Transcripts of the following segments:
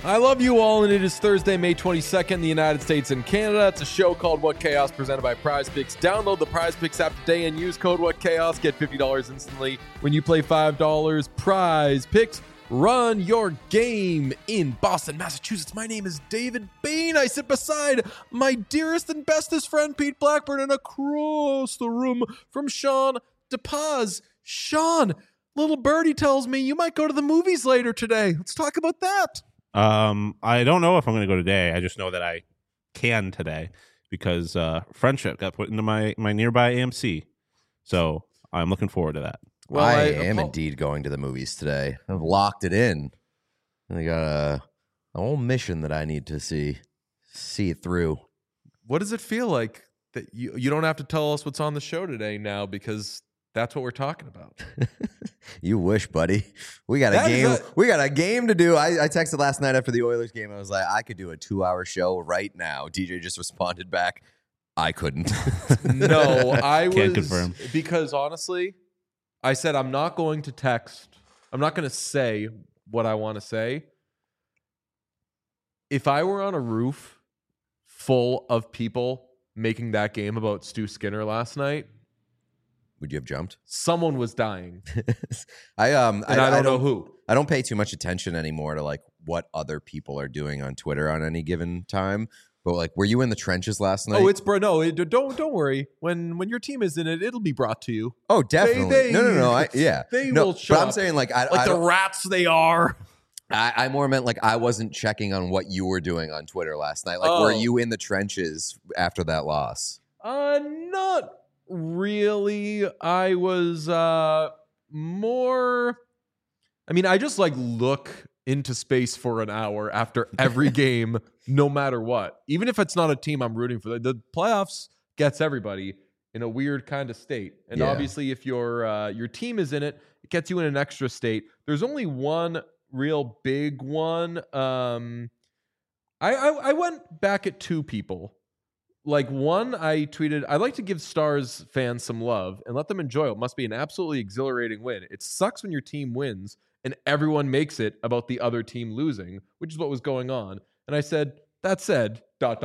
I love you all, and it is Thursday, May 22nd in the United States and Canada. It's a show called What Chaos, presented by Prize Picks. Download the Prize Picks app today and use code What Chaos. Get $50 instantly when you play $5. Prize Picks. Run your game in Boston, Massachusetts. My name is David Bain. I sit beside my dearest and bestest friend, Pete Blackburn, and across the room from Sean DePaz. Sean, little birdie tells me you might go to the movies later today. Let's talk about that. I don't know if I'm going to go today. I just know that I can today because Friendship got put into my nearby AMC. So I'm looking forward to that. Well, I am indeed going to the movies today. I've locked it in. I got a whole mission that I need to see it through. What does it feel like that you don't have to tell us what's on the show today now, because that's what we're talking about? You wish, buddy. We got a game. We got a game to do. I texted last night after the Oilers game. I was like, I could do a 2-hour show right now. DJ just responded back, I couldn't. No, I Can't confirm. Because honestly, I said I'm not going to text. I'm not going to say what I want to say. If I were on a roof full of people making that game about Stu Skinner last night, would you have jumped? Someone was dying. I don't know who. I don't pay too much attention anymore to like what other people are doing on Twitter on any given time. But like, were you in the trenches last night? Oh, don't worry. When your team is in it, it'll be brought to you. Oh, definitely. No. They will show But I'm up. saying like The rats they are. I more meant like I wasn't checking on what you were doing on Twitter last night. Like, were you in the trenches after that loss? Not really. I was more. I mean, I just like look into space for an hour after every game, no matter what. Even if it's not a team I'm rooting for, the playoffs gets everybody in a weird kind of state. And obviously, if your team is in it, it gets you in an extra state. There's only one real big one. I went back at two people. Like, one, I tweeted, I'd like to give Stars fans some love and let them enjoy it. It must be an absolutely exhilarating win. It sucks when your team wins and everyone makes it about the other team losing, which is what was going on. And I said, that said, ...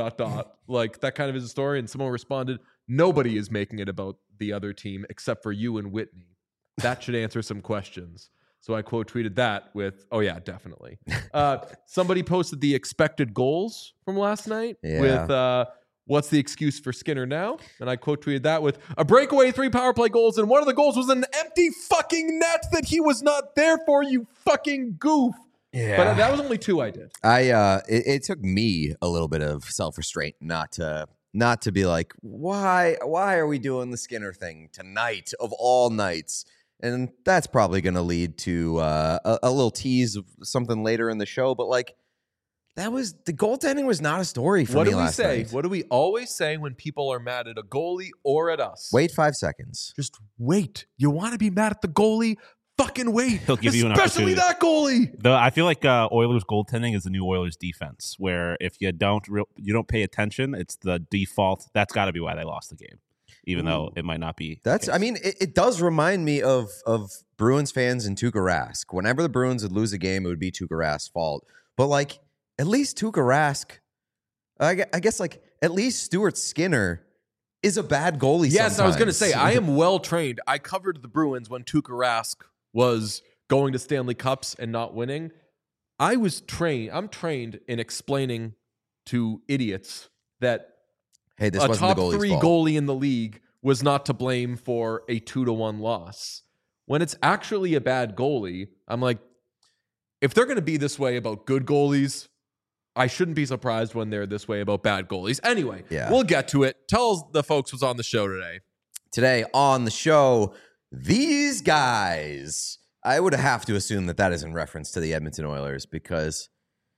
Like, that kind of is a story. And someone responded, nobody is making it about the other team except for you and Whitney. That should answer some questions. So I quote tweeted that with, oh yeah, definitely. Somebody posted the expected goals from last night with, what's the excuse for Skinner now? And I quote tweeted that with a breakaway, 3 power play goals, and one of the goals was an empty fucking net that he was not there for, you fucking goof. Yeah. But that was only 2 I did. It took me a little bit of self-restraint not to be like, why are we doing the Skinner thing tonight of all nights? And that's probably going to lead to a little tease of something later in the show. But like, that was the goaltending was not a story for me last night. What do we always say when people are mad at a goalie or at us? Wait 5 seconds. Just wait. You want to be mad at the goalie? Fucking wait. He'll give you an opportunity. Especially that goalie. Though I feel like Oilers goaltending is the new Oilers defense, where if you don't pay attention, it's the default. That's got to be why they lost the game, even though it might not be. I mean, it does remind me of Bruins fans and Tuukka Rask. Whenever the Bruins would lose a game, it would be Tuukka Rask's fault. But like, at least Tuukka Rask, I guess like at least Stuart Skinner is a bad goalie. Yes, sometimes. I was going to say, I am well trained. I covered the Bruins when Tuukka Rask was going to Stanley Cups and not winning. I'm trained in explaining to idiots that this a wasn't top the goalie's 3 fault. goalie in the league was not to blame for a 2-1 loss. When it's actually a bad goalie, I'm like, if they're going to be this way about good goalies, I shouldn't be surprised when they're this way about bad goalies. Anyway, We'll get to it. Tell the folks what's on the show today. Today on the show, these guys. I would have to assume that is in reference to the Edmonton Oilers because,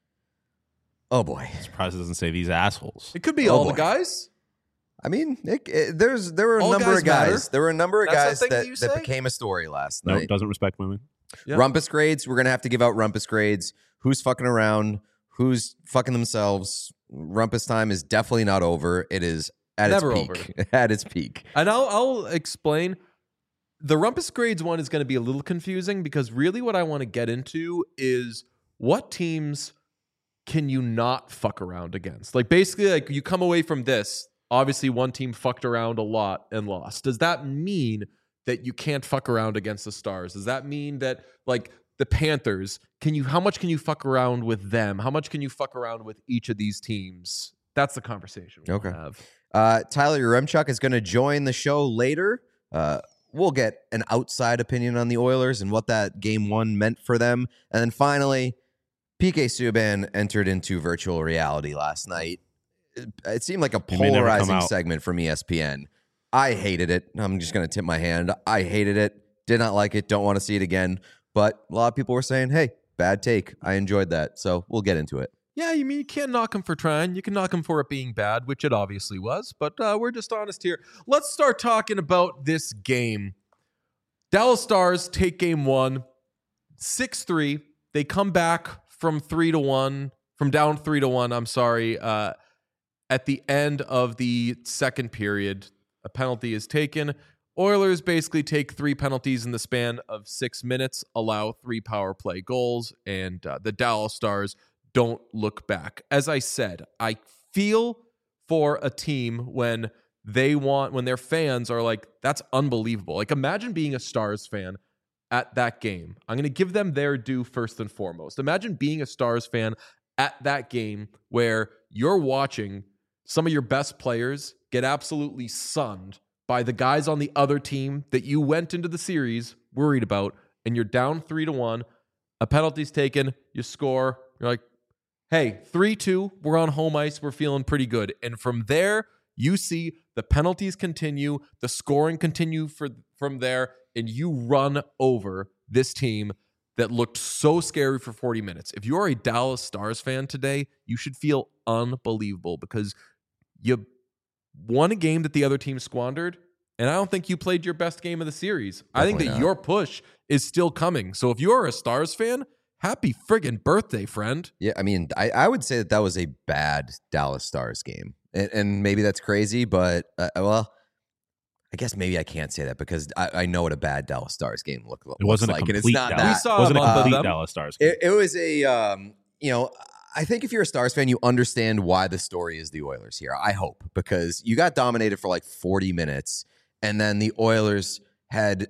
oh boy. I'm surprised it doesn't say these assholes. It could be all the guys. I mean, there were a number of guys. There were a number of guys that became a story last night. No, doesn't respect women. Yeah. Rumpus grades. We're going to have to give out rumpus grades. Who's fucking around? Who's fucking themselves? Rumpus time is definitely not over. It is at Never its peak. At its peak. And I'll explain. The Rumpus grades one is going to be a little confusing because really what I want to get into is what teams can you not fuck around against? Like basically, like you come away from this, obviously one team fucked around a lot and lost. Does that mean that you can't fuck around against the Stars? Does that mean that like the Panthers, how much can you fuck around with them? How much can you fuck around with each of these teams? That's the conversation we'll have. Tyler Yaremchuk is going to join the show later. We'll get an outside opinion on the Oilers and what that game one meant for them. And then finally, PK Subban entered into virtual reality last night. It seemed like a polarizing segment from ESPN. I hated it. I'm just going to tip my hand. I hated it. Did not like it. Don't want to see it again. But a lot of people were saying, hey, bad take. I enjoyed that. So we'll get into it. Yeah, you mean you can't knock him for trying. You can knock him for it being bad, which it obviously was. But we're just honest here. Let's start talking about this game. Dallas Stars take game one, 6-3. They come back from down 3-1, I'm sorry. At the end of the second period, a penalty is taken. Oilers basically take 3 penalties in the span of 6 minutes, allow 3 power play goals, and the Dallas Stars don't look back. As I said, I feel for a team when their fans are like, that's unbelievable. Like imagine being a Stars fan at that game. I'm going to give them their due first and foremost. Imagine being a Stars fan at that game where you're watching some of your best players get absolutely sunned by the guys on the other team that you went into the series worried about, and you're down 3-1, a penalty's taken, you score, you're like, hey, 3-2, we're on home ice, we're feeling pretty good. And from there, you see the penalties continue, the scoring continue from there, and you run over this team that looked so scary for 40 minutes. If you're a Dallas Stars fan today, you should feel unbelievable because you won a game that the other team squandered, and I don't think you played your best game of the series. I think that your push is still coming. So if you're a Stars fan, happy friggin' birthday, friend. Yeah, I mean, I would say that was a bad Dallas Stars game. And maybe that's crazy, but, well, I guess maybe I can't say that because I know what a bad Dallas Stars game looks like. It wasn't a complete Dallas Stars game. It was a, I think if you're a Stars fan, you understand why the story is the Oilers here. I hope, because you got dominated for like 40 minutes, and then the Oilers had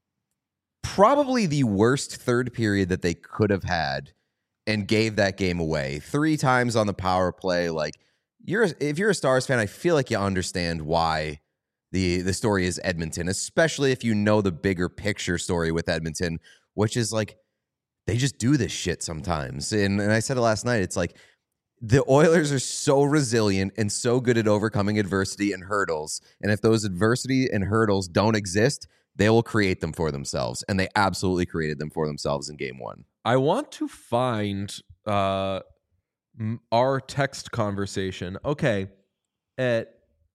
probably the worst third period that they could have had and gave that game away 3 times on the power play. Like, if you're a Stars fan, I feel like you understand why the story is Edmonton, especially if you know the bigger picture story with Edmonton, which is like, they just do this shit sometimes. And I said it last night. It's like the Oilers are so resilient and so good at overcoming adversity and hurdles. And if those adversity and hurdles don't exist, they will create them for themselves. And they absolutely created them for themselves in game one. I want to find our text conversation. Okay. At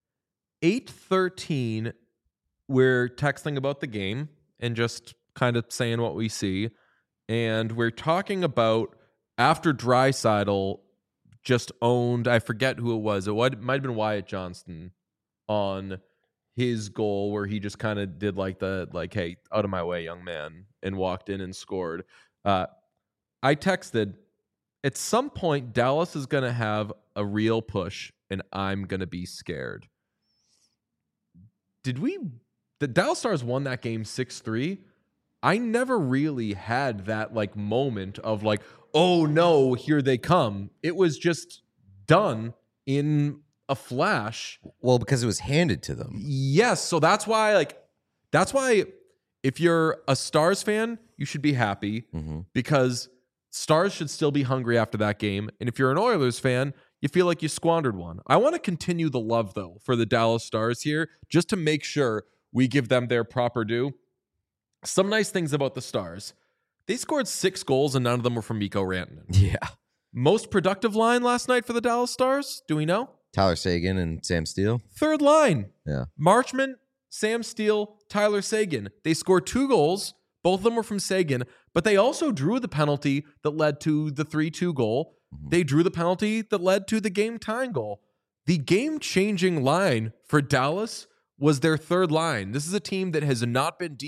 8:13, we're texting about the game and just kind of saying what we see. And we're talking about after Draisaitl just owned, I forget who it was. It might have been Wyatt Johnston on his goal where he just kind of did hey, out of my way, young man, and walked in and scored. I texted, at some point, Dallas is going to have a real push, and I'm going to be scared. The Dallas Stars won that game 6-3. I never really had that moment of oh no, here they come. It was just done in a flash. Well, because it was handed to them. Yes, so that's why if you're a Stars fan, you should be happy because Stars should still be hungry after that game. And if you're an Oilers fan, you feel like you squandered one. I want to continue the love though for the Dallas Stars here just to make sure we give them their proper due. Some nice things about the Stars. They scored 6 goals and none of them were from Mikko Rantanen. Yeah. Most productive line last night for the Dallas Stars? Do we know? Tyler Seguin and Sam Steele. Third line. Yeah. Marchment, Sam Steele, Tyler Seguin. They scored 2 goals. Both of them were from Seguin, but they also drew the penalty that led to the 3-2 goal. They drew the penalty that led to the game-tying goal. The game-changing line for Dallas was their third line. This is a team that has not been deep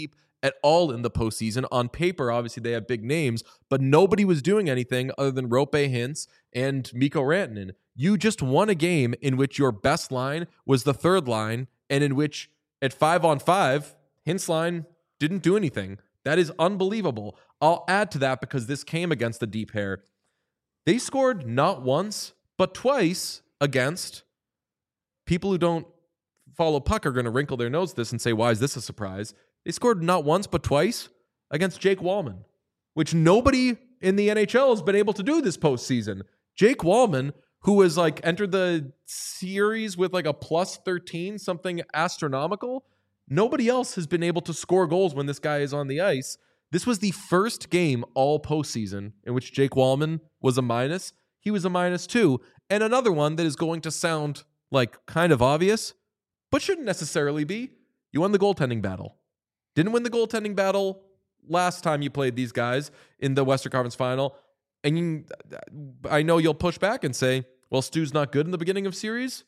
at all in the postseason. On paper, obviously, they have big names, but nobody was doing anything other than Rope Hintz and Mikko Rantanen. You just won a game in which your best line was the third line, and in which at 5-on-5, Hintz line didn't do anything. That is unbelievable. I'll add to that because this came against the deep pair. They scored not once, but twice against people who don't follow puck are going to wrinkle their nose at this and say, why is this a surprise? They scored not once, but twice against Jake Wallman, which nobody in the NHL has been able to do this postseason. Jake Wallman, who has like entered the series with like a plus 13, something astronomical. Nobody else has been able to score goals when this guy is on the ice. This was the first game all postseason in which Jake Wallman was a minus. He was a -2. And another one that is going to sound like kind of obvious, but shouldn't necessarily be. You won the goaltending battle. Didn't win the goaltending battle last time you played these guys in the Western Conference Final. And I know you'll push back and say, well, Stu's not good in the beginning of series.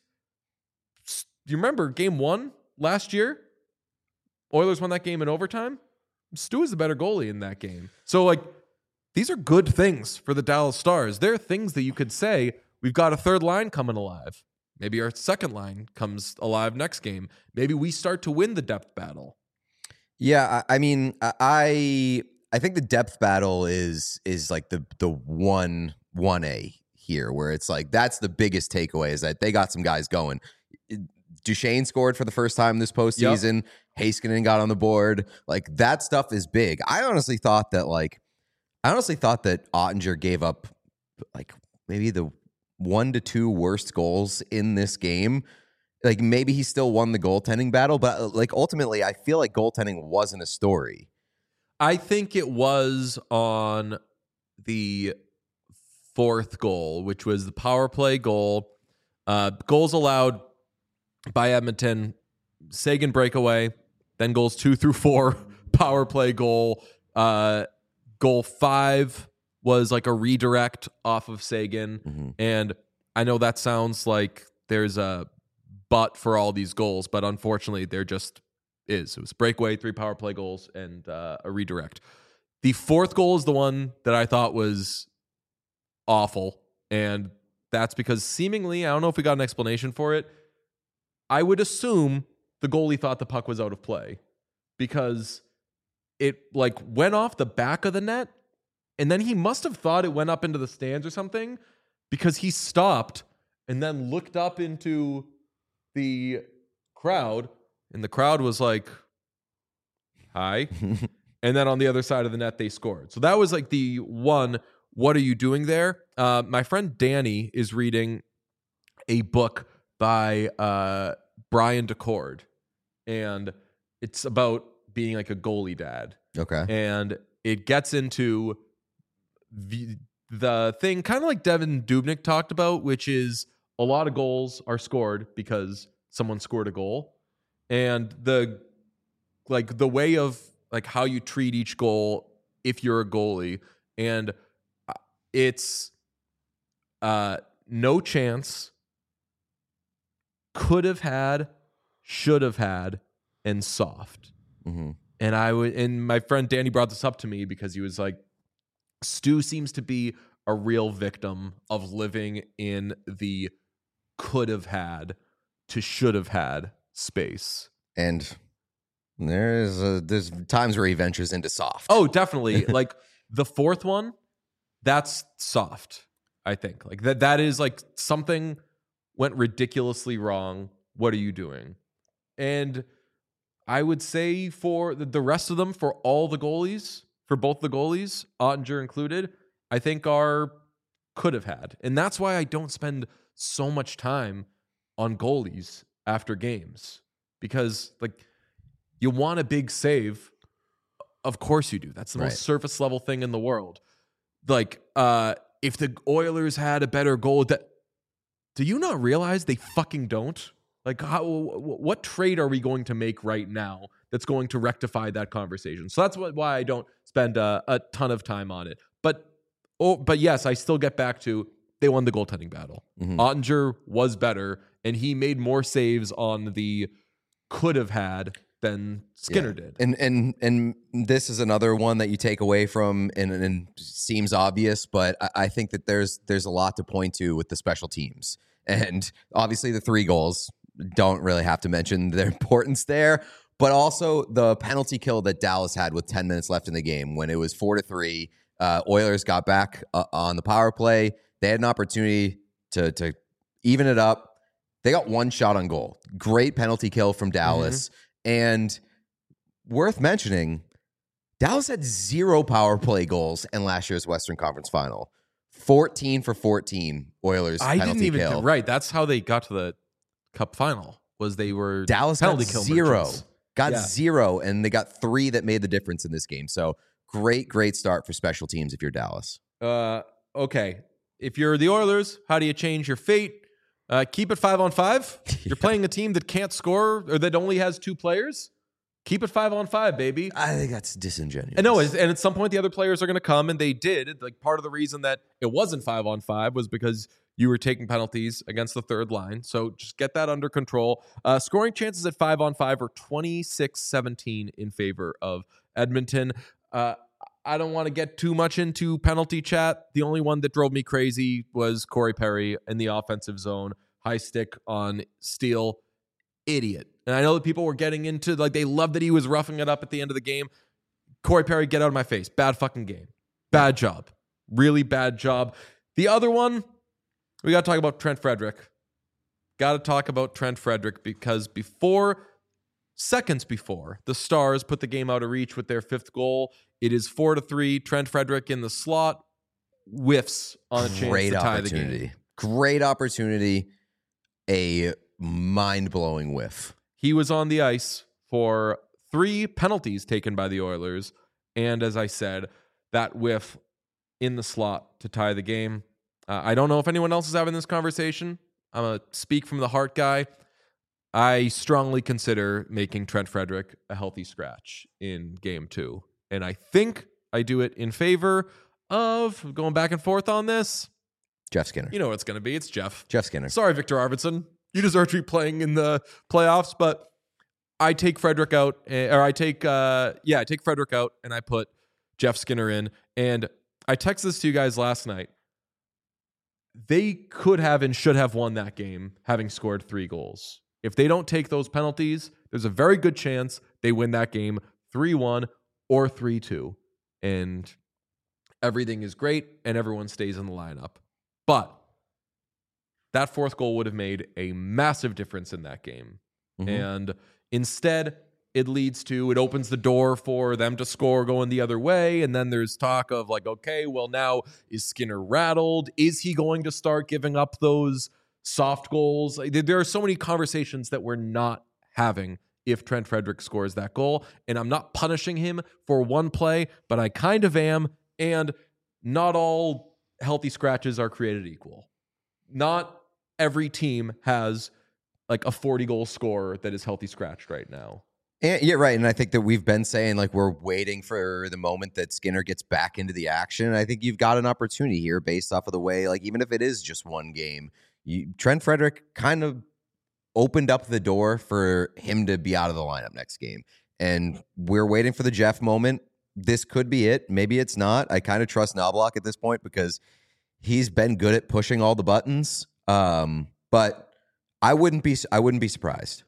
You remember game 1 last year? Oilers won that game in overtime. Stu is the better goalie in that game. So, like, these are good things for the Dallas Stars. There are things that you could say, we've got a third line coming alive. Maybe our second line comes alive next game. Maybe we start to win the depth battle. Yeah, I mean, I think the depth battle is like the 1A here, where it's like that's the biggest takeaway is that they got some guys going. Duchesne scored for the first time this postseason. Yep. Heiskanen got on the board. Like, that stuff is big. I honestly thought that Ottinger gave up like maybe the 1 to 2 worst goals in this game. Like, maybe he still won the goaltending battle, but like ultimately I feel like goaltending wasn't a story. I think it was on the 4th goal, which was the power play goal. Goals allowed by Edmonton, Seguin breakaway, then goals 2 through 4, power play goal. Goal 5 was like a redirect off of Seguin. Mm-hmm. And I know that sounds like there's a but for all these goals, but unfortunately there just is. It was breakaway, 3 power play goals, and a redirect. The 4th goal is the one that I thought was awful. And that's because seemingly, I don't know if we got an explanation for it, I would assume the goalie thought the puck was out of play because it like went off the back of the net, and then he must have thought it went up into the stands or something because he stopped and then looked up into the crowd, and the crowd was like, hi. And then on the other side of the net, they scored. So that was like the one, what are you doing there? My friend Danny is reading a book by Brian DeCord, and it's about being like a goalie dad. Okay. And it gets into the thing kind of like Devin Dubnyk talked about, which is a lot of goals are scored because someone scored a goal. And the way of like how you treat each goal if you're a goalie, and it's no chance, could have had, should have had, and soft. Mm-hmm. And my friend Danny brought this up to me because he was like, Stu seems to be a real victim of living in the could have had to should have had space. And there's times where he ventures into soft. Oh, definitely. Like the 4th one, that's soft, I think. Like that is like something went ridiculously wrong. What are you doing? And I would say for the rest of them, for all the goalies, for both the goalies, Ottinger included, I think are could have had. And that's why I don't spend so much time on goalies after games. Because like you want a big save. Of course you do. That's the most surface level thing in the world. Like if the Oilers had a better goal, do you not realize they fucking don't? Like, what trade are we going to make right now that's going to rectify that conversation? So that's why I don't spend a ton of time on it. But yes, I still get back to they won the goaltending battle. Mm-hmm. Ottinger was better, and he made more saves on the could have had than Skinner did. And this is another one that you take away from, and seems obvious, but I think that there's a lot to point to with the special teams. And obviously the 3 goals, don't really have to mention their importance there, but also the penalty kill that Dallas had with 10 minutes left in the game when it was 4-3. Oilers got back on the power play. They had an opportunity to even it up. They got 1 shot on goal. Great penalty kill from Dallas. And worth mentioning, Dallas had 0 power play goals in last year's Western Conference Final. 14 for 14 Oilers I penalty didn't even kill. right. That's how they got to the Cup final. Was they were Dallas penalty got kill 0. merchants. Got Yeah. 0, and they got 3 that made the difference in this game. So great start for special teams if you're Dallas. Okay. If you're the Oilers, how do you change your fate? Keep it 5-on-5. You're playing a team that can't score or that only has 2 players. Keep it 5-on-5, baby. I think that's disingenuous. And no, and at some point the other players are going to come, and they did. Like part of the reason that it wasn't 5-on-5 was because you were taking penalties against the third line. So just get that under control. Scoring chances at 5-on-5 are 26-17 in favor of Edmonton. I don't want to get too much into penalty chat. The only one that drove me crazy was Corey Perry in the offensive zone. High stick on Steele. Idiot. And I know that people were getting into, like, they loved that he was roughing it up at the end of the game. Corey Perry, get out of my face. Bad fucking game. Bad job. Really bad job. The other one, we got to talk about Trent Frederick. Got to talk about Trent Frederick because seconds before, the Stars put the game out of reach with their 5th goal. It is 4-3. Trent Frederick in the slot whiffs on a chance to tie the game. Great opportunity. A mind-blowing whiff. He was on the ice for 3 penalties taken by the Oilers. And as I said, that whiff in the slot to tie the game. I don't know if anyone else is having this conversation. I'm a speak from the heart guy. I strongly consider making Trent Frederick a healthy scratch in game 2. And I think I do it in favor of going back and forth on this. Jeff Skinner. You know what it's going to be. It's Jeff. Jeff Skinner. Sorry, Victor Arvidsson. You deserve to be playing in the playoffs, but I take Frederick out, I take Frederick out, and I put Jeff Skinner in. And I texted this to you guys last night. They could have and should have won that game having scored 3 goals. If they don't take those penalties, there's a very good chance they win that game 3-1 or 3-2. And everything is great and everyone stays in the lineup. But that 4th goal would have made a massive difference in that game. Mm-hmm. And instead, it opens the door for them to score going the other way. And then there's talk of like, okay, well now is Skinner rattled? Is he going to start giving up those soft goals? There are so many conversations that we're not having if Trent Frederick scores that goal. And I'm not punishing him for one play, but I kind of am. And not all healthy scratches are created equal. Not every team has like a 40-goal scorer that is healthy scratched right now. And, yeah, right. And I think that we've been saying like we're waiting for the moment that Skinner gets back into the action. And I think you've got an opportunity here based off of the way, like even if it is just one game, Trent Frederick kind of opened up the door for him to be out of the lineup next game. And we're waiting for the Jeff moment. This could be it. Maybe it's not. I kind of trust Knobloch at this point because he's been good at pushing all the buttons. But I wouldn't be surprised.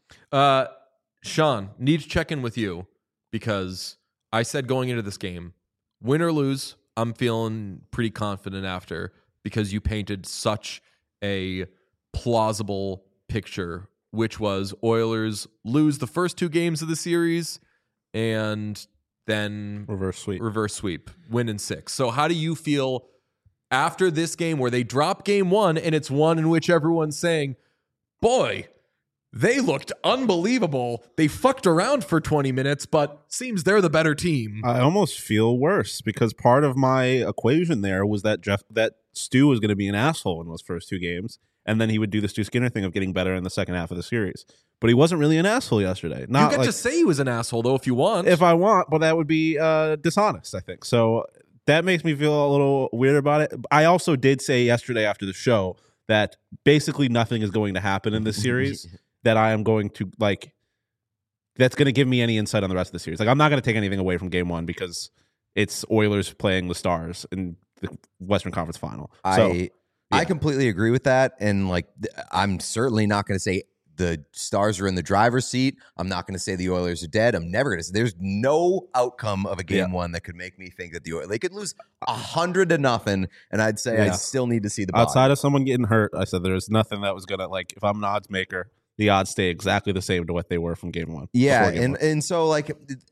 Sean, need to check in with you because I said going into this game, win or lose, I'm feeling pretty confident after because you painted such a plausible picture, which was Oilers lose the first 2 games of the series and then reverse sweep, win in 6. So how do you feel after this game where they drop game 1 and it's one in which everyone's saying, boy, they looked unbelievable. They fucked around for 20 minutes, but seems they're the better team. I almost feel worse because part of my equation there was that Stu was going to be an asshole in those first 2 games, and then he would do the Stu Skinner thing of getting better in the second half of the series. But he wasn't really an asshole yesterday. You get to say he was an asshole, though, if you want. If I want, but that would be dishonest, I think. So that makes me feel a little weird about it. I also did say yesterday after the show that basically nothing is going to happen in this series. That I am going to that's going to give me any insight on the rest of the series. Like I'm not going to take anything away from Game 1 because it's Oilers playing the Stars in the Western Conference Final. I completely agree with that, and like I'm certainly not going to say the Stars are in the driver's seat. I'm not going to say the Oilers are dead. I'm never going to say there's no outcome of a Game 1 that could make me think that the Oilers, they could lose 100-0, and I'd say I still need to see the body. Outside of someone getting hurt, I said there's nothing that was going to, like, if I'm an odds maker, the odds stay exactly the same to what they were from Game 1. Yeah, and so like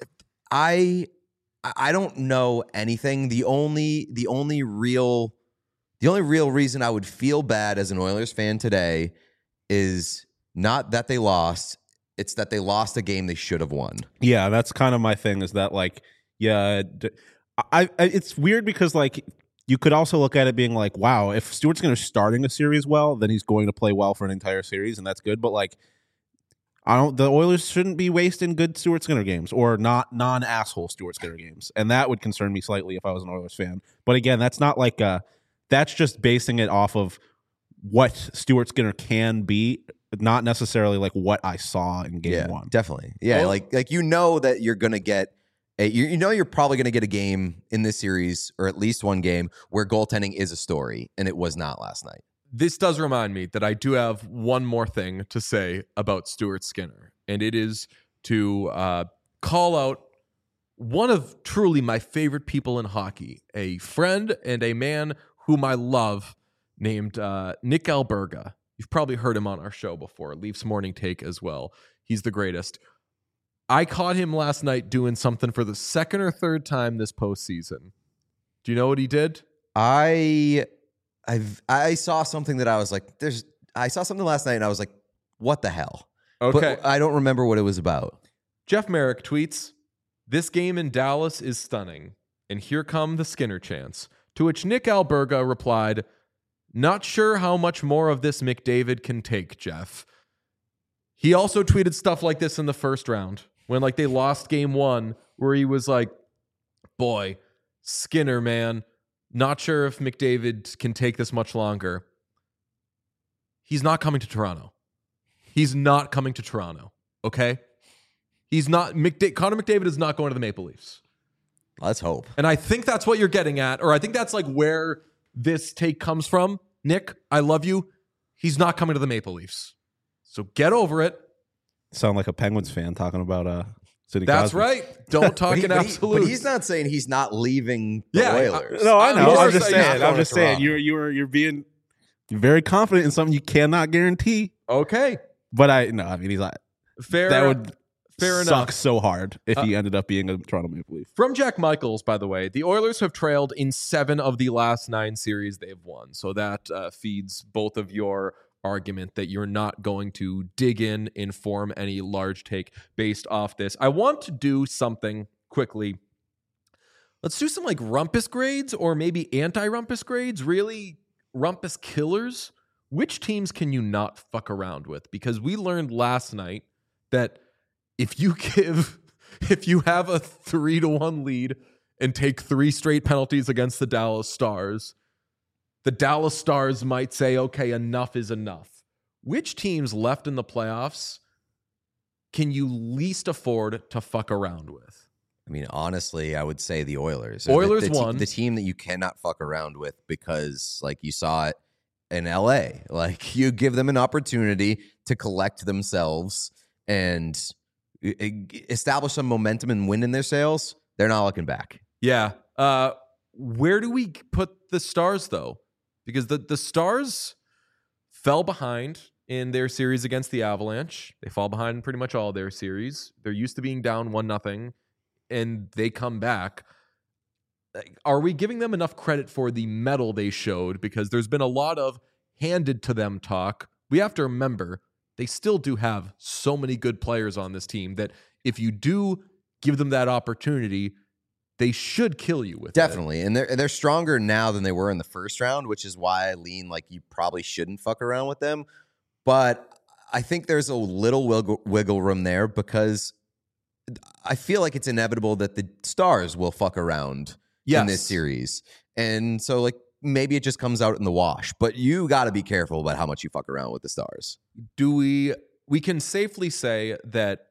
I don't know anything. The only real reason I would feel bad as an Oilers fan today is not that they lost, it's that they lost a game they should have won. Yeah, that's kind of my thing, is that like, yeah, I it's weird because like you could also look at it being like, wow, if Stuart Skinner's starting a series well, then he's going to play well for an entire series, and that's good. But like, the Oilers shouldn't be wasting good Stuart Skinner games or not non-asshole Stuart Skinner games, and that would concern me slightly if I was an Oilers fan. But again, that's not like that's just basing it off of what Stuart Skinner can be, not necessarily like what I saw in Game 1. Definitely. Yeah, well, like you know that you're going to get you're probably going to get a game in this series, or at least one game where goaltending is a story, and it was not last night. This does remind me that I do have one more thing to say about Stuart Skinner, and it is to call out one of truly my favorite people in hockey, a friend and a man whom I love, named Nick Alberga. You've probably heard him on our show before, Leafs Morning Take as well. He's the greatest. I caught him last night doing something for the second or third time this postseason. Do you know what he did? I saw something that I was like, I saw something last night and I was like, what the hell? Okay. But I don't remember what it was about. Jeff Merrick tweets, "This game in Dallas is stunning, and here come the Skinner chants." To which Nick Alberga replied, "Not sure how much more of this McDavid can take, Jeff." He also tweeted stuff like this in the first round when like they lost Game 1, where he was like, "Boy, Skinner, man, not sure if McDavid can take this much longer." He's not coming to Toronto. He's not coming to Toronto, okay? He's not. Connor McDavid is not going to the Maple Leafs. Let's hope. And I think that's what you're getting at, or I think that's like where this take comes from. Nick, I love you. He's not coming to the Maple Leafs. So get over it. Sound like a Penguins fan talking about Sidney That's Crosby. right. Don't talk in absolutes. But he's not saying he's not leaving the Oilers. No, I know. I'm just saying. You're being very confident in something you cannot guarantee. Okay. But I mean, he's like, Fair suck enough. So hard if he ended up being a Toronto Maple Leaf. From Jack Michaels, by the way, the Oilers have trailed in 7 of the last 9 series they've won. So that feeds both of your argument that you're not going to dig in and form any large take based off this. I want to do something quickly. Let's do some like rumpus grades or maybe anti-rumpus grades. Really, rumpus killers. Which teams can you not fuck around with? Because we learned last night that if you have a 3-1 lead and take 3 straight penalties against the Dallas Stars might say, okay, enough is enough. Which teams left in the playoffs can you least afford to fuck around with? I mean, honestly, I would say the Oilers. Oilers won. The team that you cannot fuck around with because, like, you saw it in LA. Like, you give them an opportunity to collect themselves and establish some momentum and win in their sales. They're not looking back. Yeah. Where do we put the Stars, though? Because the Stars fell behind in their series against the Avalanche. They fall behind in pretty much all their series. They're used to being down 1-0, and they come back. Are we giving them enough credit for the mettle they showed? Because there's been a lot of handed to them talk. We have to remember, they still do have so many good players on this team that if you do give them that opportunity, they should kill you with Definitely. And they're stronger now than they were in the first round, which is why I lean like you probably shouldn't fuck around with them. But I think there's a little wiggle room there because I feel like it's inevitable that the Stars will fuck around in this series. And so like maybe it just comes out in the wash, but you got to be careful about how much you fuck around with the Stars. We can safely say that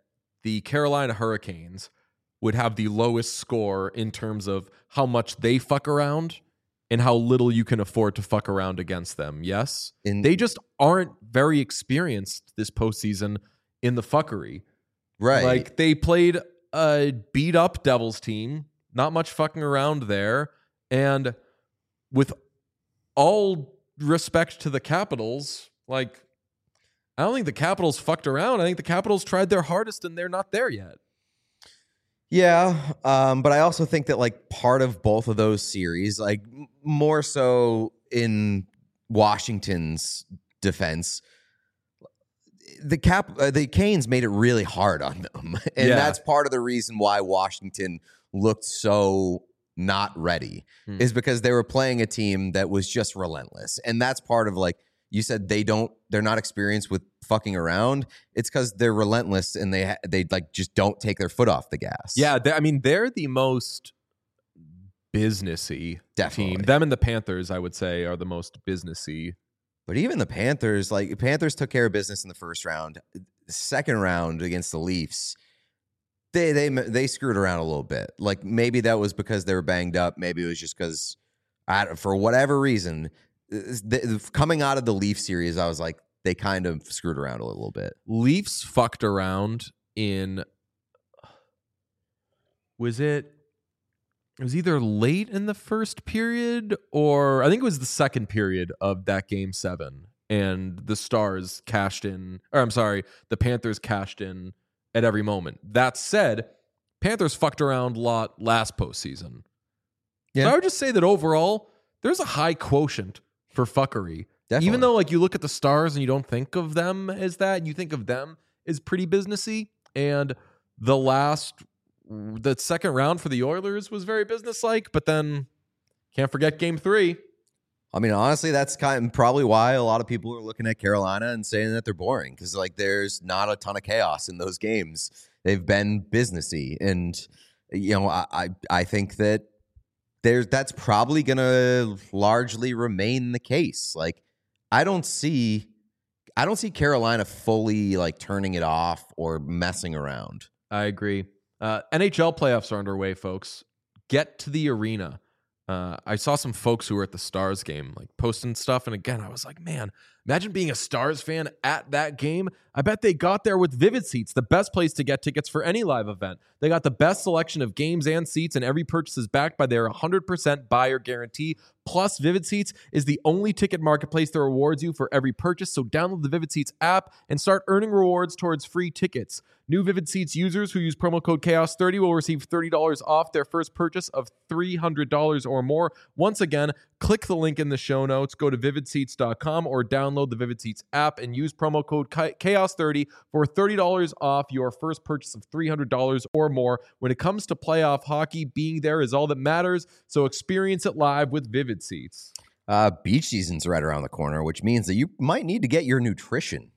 the Carolina Hurricanes would have the lowest score in terms of how much they fuck around and how little you can afford to fuck around against them. Yes? They just aren't very experienced this postseason in the fuckery. Right. Like, they played a beat up Devils team, not much fucking around there. And with all respect to the Capitals, like, I don't think the Capitals fucked around. I think the Capitals tried their hardest and they're not there yet. Yeah, but I also think that like part of both of those series, like more so in Washington's defense, the Canes made it really hard on them, and that's part of the reason why Washington looked so not ready is because they were playing a team that was just relentless, and that's part of like you said they're not experienced with fucking around. It's because they're relentless and they like just don't take their foot off the gas. Yeah, they're the most businessy Definitely. team. Them and the Panthers, I would say, are the most businessy. But even the Panthers, like Panthers took care of business in the first round. The second round against the Leafs, they screwed around a little bit. Like maybe that was because they were banged up. Maybe it was just because for whatever reason, coming out of the Leaf series, I was like, they kind of screwed around a little bit. Leafs fucked around in. It was either late in the first period or I think it was the second period of that game 7, and the Stars cashed in, or I'm sorry, the Panthers cashed in at every moment. That said, Panthers fucked around a lot last postseason. Yeah. So I would just say that overall, there's a high quotient for fuckery. Definitely. Even though like you look at the Stars and you don't think of them as that, you think of them as pretty businessy. And the second round for the Oilers was very businesslike, but then can't forget game 3. I mean, honestly, that's probably why a lot of people are looking at Carolina and saying that they're boring because like there's not a ton of chaos in those games. They've been businessy, and you know, I think that that's probably going to largely remain the case. Like, I don't see Carolina fully like turning it off or messing around. I agree. NHL playoffs are underway, folks. Get to the arena. I saw some folks who were at the Stars game like posting stuff, and again, I was like, man, imagine being a Stars fan at that game. I bet they got there with Vivid Seats, the best place to get tickets for any live event. They got the best selection of games and seats, and every purchase is backed by their 100% buyer guarantee. Plus, Vivid Seats is the only ticket marketplace that rewards you for every purchase, so download the Vivid Seats app and start earning rewards towards free tickets. New Vivid Seats users who use promo code CHAOS30 will receive $30 off their first purchase of $300 or more. Once again, click the link in the show notes, go to vividseats.com or download the Vivid Seats app and use promo code CHAOS30 for $30 off your first purchase of $300 or more. When it comes to playoff hockey, being there is all that matters, so experience it live with Vivid Seats. Beach season's right around the corner, which means that you might need to get your nutrition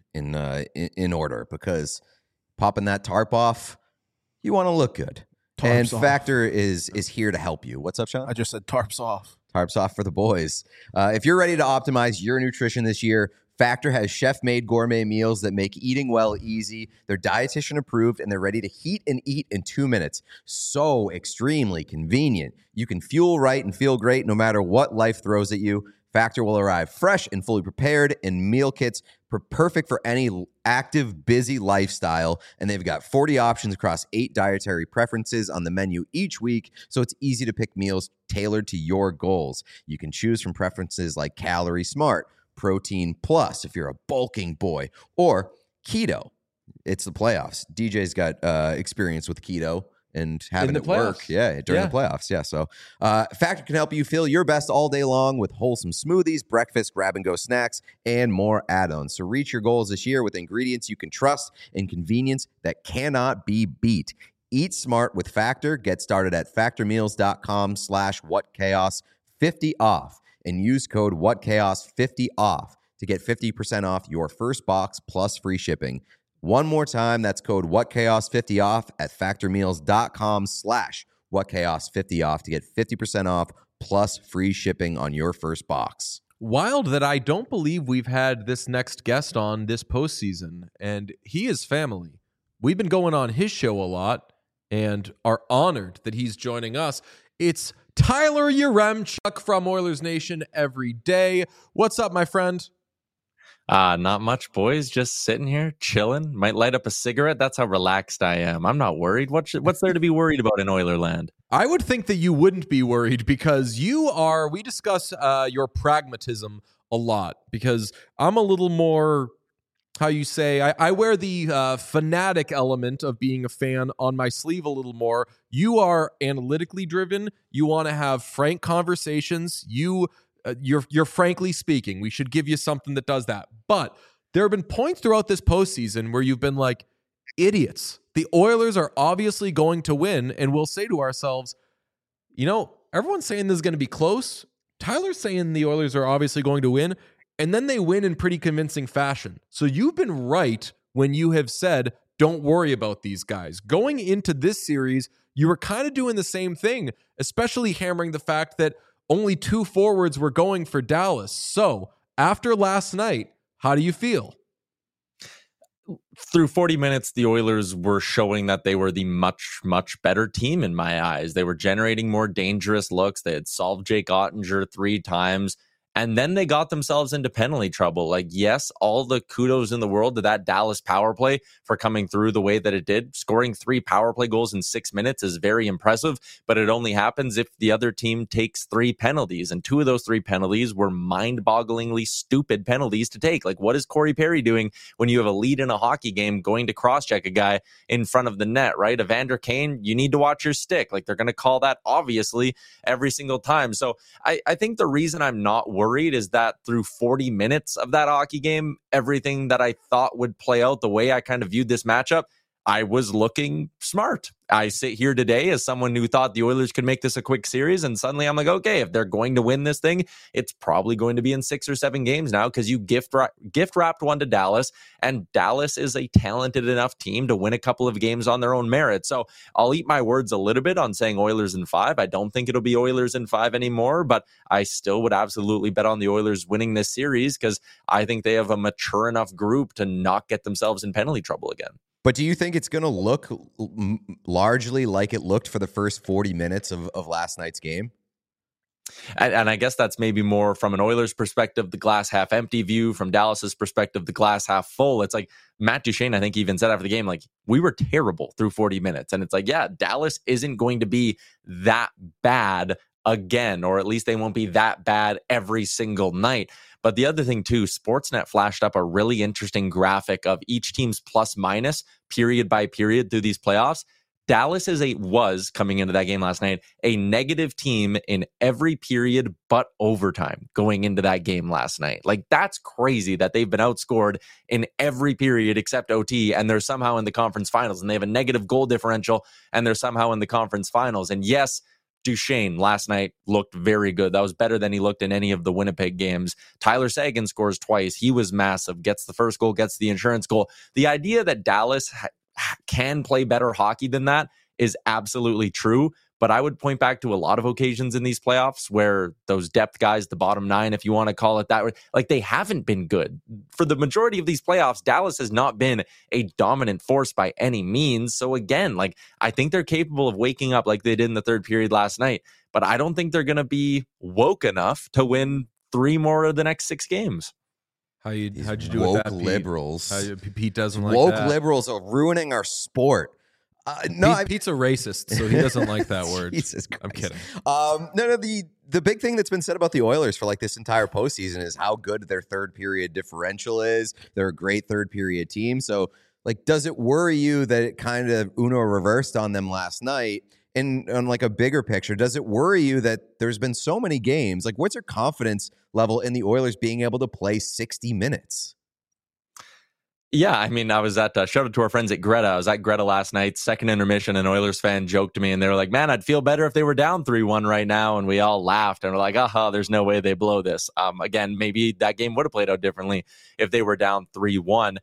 in order because popping that tarp off, you want to look good. Tarps off. Factor is here to help you. What's up, Sean? I just said tarps off. Tarps off for the boys. If you're ready to optimize your nutrition this year, Factor has chef-made gourmet meals that make eating well easy. They're dietitian approved, and they're ready to heat and eat in 2 minutes. So extremely convenient. You can fuel right and feel great no matter what life throws at you. Factor will arrive fresh and fully prepared in meal kits, perfect for any active, busy lifestyle. And they've got 40 options across 8 dietary preferences on the menu each week, so it's easy to pick meals tailored to your goals. You can choose from preferences like Calorie Smart, Protein Plus if you're a bulking boy, or Keto. It's the playoffs. DJ's got experience with keto and having it work. Yeah, during the playoffs. Yeah, so Factor can help you feel your best all day long with wholesome smoothies, breakfast, grab-and-go snacks, and more add-ons. So reach your goals this year with ingredients you can trust and convenience that cannot be beat. Eat smart with Factor. Get started at factormeals.com/whatchaos50 off and use code whatchaos50 off to get 50% off your first box plus free shipping. One more time, that's code whatchaos50 off at factormeals.com/whatchaos50 off to get 50% off plus free shipping on your first box. Wild that I don't believe we've had this next guest on this postseason, and he is family. we've been going on his show a lot and are honored that he's joining us. It's Tyler Yaremchuk from Oilers Nation every day. What's up, my friend? Not much, boys. Just sitting here, chilling. Might light up a cigarette. That's how relaxed I am. I'm not worried. What's there to be worried about in Oilerland? I would think that you wouldn't be worried because we discuss your pragmatism a lot, because I'm a little more, how you say, I wear the fanatic element of being a fan on my sleeve a little more. You are analytically driven. You want to have frank conversations. You're frankly speaking. We should give you something that does that. But there have been points throughout this postseason where you've been like, idiots. The Oilers are obviously going to win, and we'll say to ourselves, everyone's saying this is going to be close. Tyler's saying the Oilers are obviously going to win, and then they win in pretty convincing fashion. So you've been right when you have said, don't worry about these guys. Going into this series, you were kind of doing the same thing, especially hammering the fact that only 2 forwards were going for Dallas. So after last night, how do you feel? Through 40 minutes, the Oilers were showing that they were the much, much better team in my eyes. They were generating more dangerous looks. They had solved Jake Ottinger 3 times. And then they got themselves into penalty trouble. Like, yes, all the kudos in the world to that Dallas power play for coming through the way that it did. Scoring 3 power play goals in 6 minutes is very impressive, but it only happens if the other team takes 3 penalties. And 2 of those 3 penalties were mind-bogglingly stupid penalties to take. Like, what is Corey Perry doing when you have a lead in a hockey game going to cross-check a guy in front of the net, right? Evander Kane, you need to watch your stick. Like, they're going to call that, obviously, every single time. So I think the reason I'm not worried is that through 40 minutes of that hockey game, everything that I thought would play out the way I kind of viewed this matchup, I was looking smart. I sit here today as someone who thought the Oilers could make this a quick series, and suddenly I'm like, okay, if they're going to win this thing, it's probably going to be in 6 or 7 games now, because you gift wrapped one to Dallas, and Dallas is a talented enough team to win a couple of games on their own merit. So I'll eat my words a little bit on saying Oilers in 5. I don't think it'll be Oilers in 5 anymore, but I still would absolutely bet on the Oilers winning this series, because I think they have a mature enough group to not get themselves in penalty trouble again. But do you think it's going to look largely like it looked for the first 40 minutes of last night's game? And I guess that's maybe more from an Oilers perspective, the glass half empty view. From Dallas's perspective, the glass half full. It's like Matt Duchene, I think, even said after the game, like, we were terrible through 40 minutes. And it's like, yeah, Dallas isn't going to be that bad again, or at least they won't be that bad every single night. But the other thing too, Sportsnet flashed up a really interesting graphic of each team's plus minus period by period through these playoffs. Dallas was coming into that game last night, a negative team in every period but overtime going into that game last night. Like, that's crazy that they've been outscored in every period except OT, and they're somehow in the conference finals, and they have a negative goal differential, and they're somehow in the conference finals. And yes, Duchene last night looked very good. That was better than he looked in any of the Winnipeg games. Tyler Seguin scores twice. He was massive, gets the first goal, gets the insurance goal. The idea that Dallas can play better hockey than that is absolutely true. But I would point back to a lot of occasions in these playoffs where those depth guys, the bottom 9, if you want to call it that, like, they haven't been good. For the majority of these playoffs, Dallas has not been a dominant force by any means. So again, like, I think they're capable of waking up like they did in the third period last night. But I don't think they're going to be woke enough to win 3 more of the next 6 games. How'd you do woke with that, Pete? liberals? Pete doesn't like woke that. Liberals are ruining our sport. Pete's a racist, so he doesn't like that word. Jesus Christ. I'm kidding. No. The big thing that's been said about the Oilers for like this entire postseason is how good their third period differential is. They're a great third period team. So, like, does it worry you that it kind of Uno reversed on them last night? And on like a bigger picture, does it worry you that there's been so many games? Like, what's your confidence level in the Oilers being able to play 60 minutes? Yeah, I mean, I was at, shout out to our friends at Greta. I was at Greta last night, second intermission, an Oilers fan joked to me, and they were like, man, I'd feel better if they were down 3-1 right now. And we all laughed, and we're like, there's no way they blow this. Again, maybe that game would have played out differently if they were down 3-1.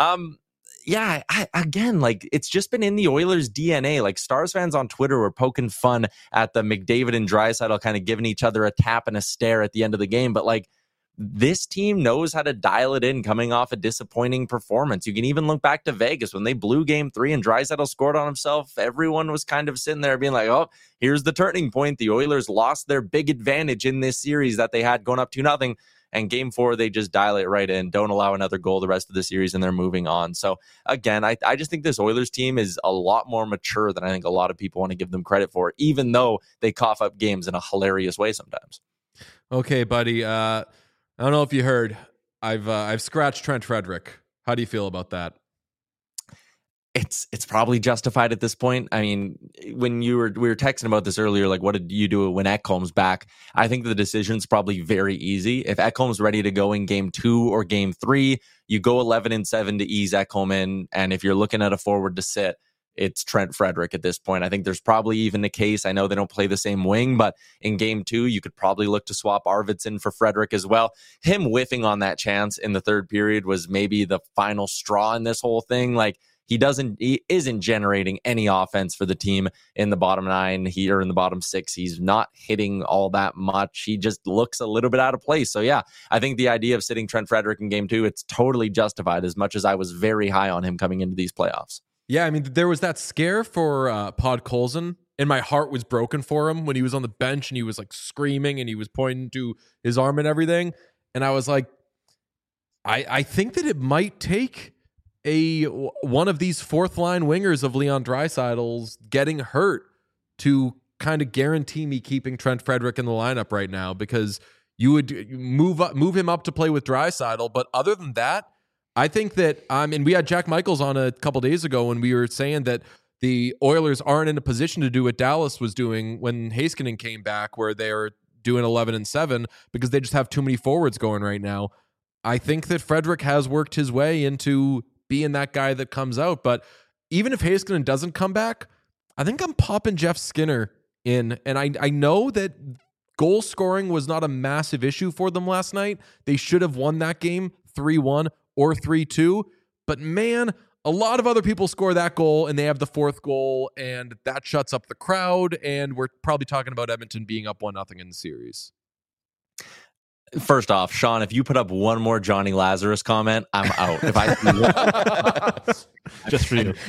Yeah, again, like, it's just been in the Oilers' DNA. Like, Stars fans on Twitter were poking fun at the McDavid and Draisaitl kind of giving each other a tap and a stare at the end of the game. But, like, this team knows how to dial it in coming off a disappointing performance. You can even look back to Vegas when they blew game 3 and Draisaitl scored on himself. Everyone was kind of sitting there being like, oh, here's the turning point. The Oilers lost their big advantage in this series that they had going up 2-0. And game 4, they just dial it right in, don't allow another goal the rest of the series, and they're moving on. So, again, I just think this Oilers team is a lot more mature than I think a lot of people want to give them credit for, even though they cough up games in a hilarious way sometimes. Okay, buddy. I don't know if you heard. I've scratched Trent Frederick. How do you feel about that? It's probably justified at this point. I mean, when we were texting about this earlier, like, what did you do when Ekholm's back? I think the decision's probably very easy. If Ekholm's ready to go in game 2 or game 3, you go 11-7 to ease Ekholm in. And if you're looking at a forward to sit, it's Trent Frederick at this point. I think there's probably even a case. I know they don't play the same wing, but in game 2, you could probably look to swap Arvidsson for Frederick as well. Him whiffing on that chance in the third period was maybe the final straw in this whole thing. Like, he isn't generating any offense for the team in the bottom 9 here in the bottom 6. He's not hitting all that much. He just looks a little bit out of place. So yeah, I think the idea of sitting Trent Frederick in game 2, it's totally justified, as much as I was very high on him coming into these playoffs. Yeah, I mean, there was that scare for Podkolzin, and my heart was broken for him when he was on the bench and he was like screaming and he was pointing to his arm and everything. And I was like, I think that it might take one of these fourth line wingers of Leon Draisaitl's getting hurt to kind of guarantee me keeping Trent Frederick in the lineup right now, because you would move him up to play with Draisaitl. But other than that, I think that and we had Jack Michaels on a couple days ago when we were saying that the Oilers aren't in a position to do what Dallas was doing when Heiskanen came back, where they're doing 11-7 because they just have too many forwards going right now. I think that Frederick has worked his way into being that guy that comes out. But even if Heiskanen doesn't come back, I think I'm popping Jeff Skinner in. And I know that goal scoring was not a massive issue for them last night. They should have won that game 3-1 or 3-2. But man, a lot of other people score that goal and they have the fourth goal, and that shuts up the crowd. And we're probably talking about Edmonton being up 1-0 in the series. First off, Sean, if you put up one more Johnny Lazarus comment, I'm out. If I just for you.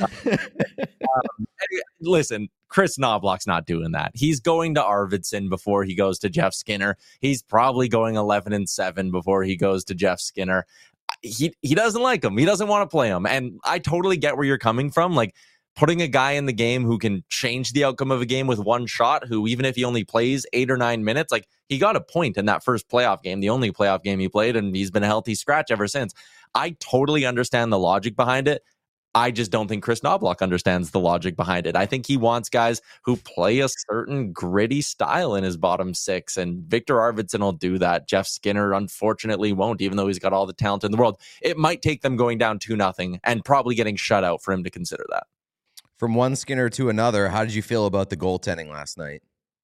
Listen, Chris Knobloch's not doing that. He's going to Arvidsson before he goes to Jeff Skinner. He's probably going 11-7 before he goes to Jeff Skinner. He doesn't like him. He doesn't want to play him. And I totally get where you're coming from. Like, putting a guy in the game who can change the outcome of a game with one shot, who even if he only plays 8 or 9 minutes, like, he got a point in that first playoff game, the only playoff game he played, and he's been a healthy scratch ever since. I totally understand the logic behind it. I just don't think Chris Knobloch understands the logic behind it. I think he wants guys who play a certain gritty style in his bottom 6, and Victor Arvidsson will do that. Jeff Skinner, unfortunately, won't, even though he's got all the talent in the world. It might take them going down 2-0 and probably getting shut out for him to consider that. From one Skinner to another, how did you feel about the goaltending last night?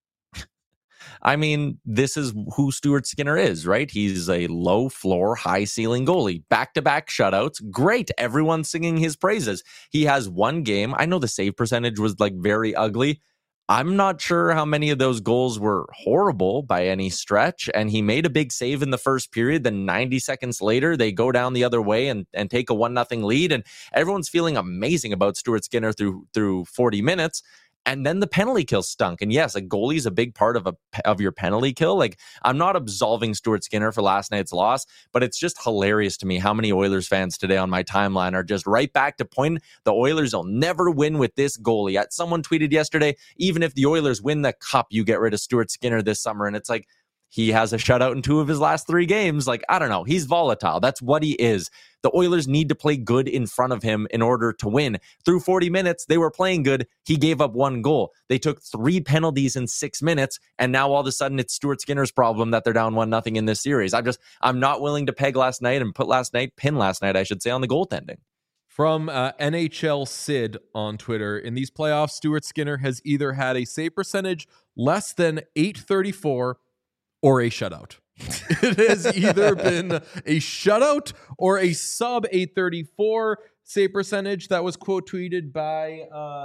I mean, this is who Stuart Skinner is, right? He's a low floor, high ceiling goalie. Back-to-back shutouts. Great. Everyone's singing his praises. He has one game. I know the save percentage was like very ugly. I'm not sure how many of those goals were horrible by any stretch. And he made a big save in the first period. Then 90 seconds later, they go down the other way and take a 1-0 lead. And everyone's feeling amazing about Stuart Skinner through 40 minutes. And then the penalty kill stunk. And yes, a goalie is a big part of your penalty kill. Like, I'm not absolving Stuart Skinner for last night's loss, but it's just hilarious to me how many Oilers fans today on my timeline are just right back to point. The Oilers will never win with this goalie. Someone tweeted yesterday, even if the Oilers win the cup, you get rid of Stuart Skinner this summer. And it's like, he has a shutout in 2 of his last 3 games. Like, I don't know. He's volatile. That's what he is. The Oilers need to play good in front of him in order to win. Through 40 minutes, they were playing good. He gave up 1 goal. They took 3 penalties in 6 minutes, and now all of a sudden it's Stuart Skinner's problem that they're down 1-0 in this series. I'm not willing to pin last night, I should say, on the goaltending. From NHL Sid on Twitter, in these playoffs, Stuart Skinner has either had a save percentage less than .834 or a shutout. It has either been a shutout or a sub .834 save percentage. That was quote tweeted by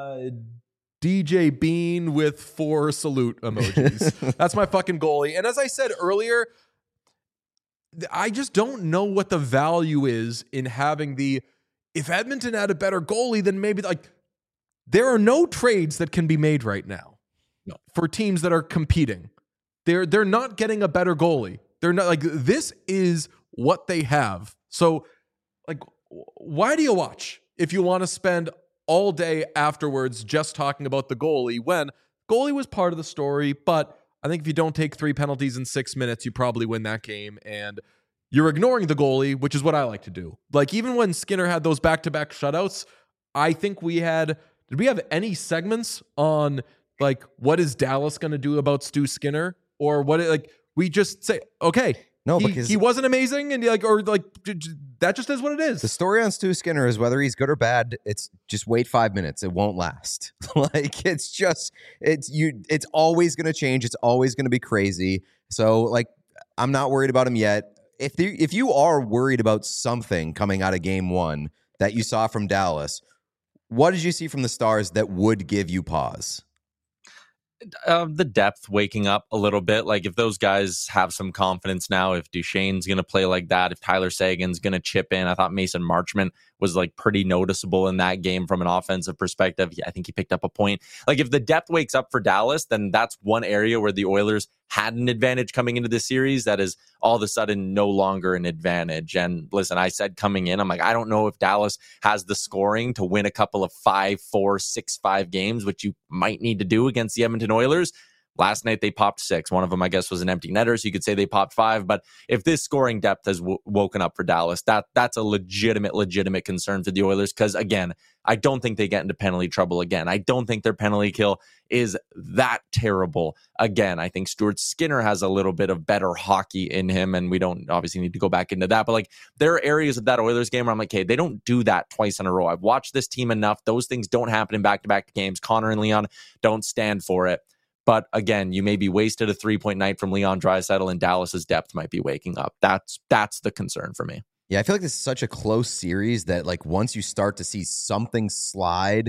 DJ Bean with 4 salute emojis. That's my fucking goalie. And as I said earlier, I just don't know what the value is in having if Edmonton had a better goalie, then maybe like there are no trades that can be made right now. No. For teams that are competing. They're not getting a better goalie. They're not like this is what they have. So like why do you watch if you want to spend all day afterwards just talking about the goalie when goalie was part of the story, but I think if you don't take 3 penalties in 6 minutes, you probably win that game. And you're ignoring the goalie, which is what I like to do. Like even when Skinner had those back-to-back shutouts, I think did we have any segments on like what is Dallas going to do about Stu Skinner? Or what, like, we just say, okay, No, because he wasn't amazing, and that just is what it is. The story on Stu Skinner is whether he's good or bad. It's just wait 5 minutes; it won't last. Like it's always going to change. It's always going to be crazy. So like, I'm not worried about him yet. If you are worried about something coming out of Game 1 that you saw from Dallas, what did you see from the Stars that would give you pause? The depth waking up a little bit. Like if those guys have some confidence now, if Duchesne's going to play like that, if Tyler Seguin's going to chip in, I thought Mason Marchment was like pretty noticeable in that game from an offensive perspective. I think he picked up a point. Like if the depth wakes up for Dallas, then that's one area where the Oilers had an advantage coming into this series that is all of a sudden no longer an advantage. And listen, I said coming in, I'm like, I don't know if Dallas has the scoring to win a couple of 5-4, 6-5 games, which you might need to do against the Edmonton Oilers. Last night they popped 6. One of them, I guess, was an empty netter, so you could say they popped 5. But if this scoring depth has woken up for Dallas, that's a legitimate concern for the Oilers. Because again, I don't think they get into penalty trouble again. I don't think their penalty kill is that terrible. Again, I think Stuart Skinner has a little bit of better hockey in him, and we don't obviously need to go back into that. But like there are areas of that Oilers game where I'm like, hey, they don't do that twice in a row. I've watched this team enough. Those things don't happen in back-to-back games. Connor and Leon don't stand for it. But again, you may be wasted a 3-point night from Leon Draisaitl, and Dallas's depth might be waking up. That's the concern for me. Yeah, I feel like this is such a close series that like once you start to see something slide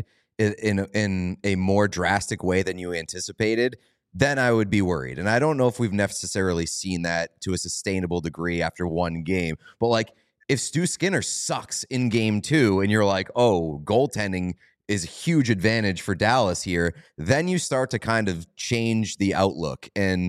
in a more drastic way than you anticipated, then I would be worried. And I don't know if we've necessarily seen that to a sustainable degree after one game. But like if Stu Skinner sucks in Game 2 and you're like, oh, goaltending is a huge advantage for Dallas here, then you start to kind of change the outlook. And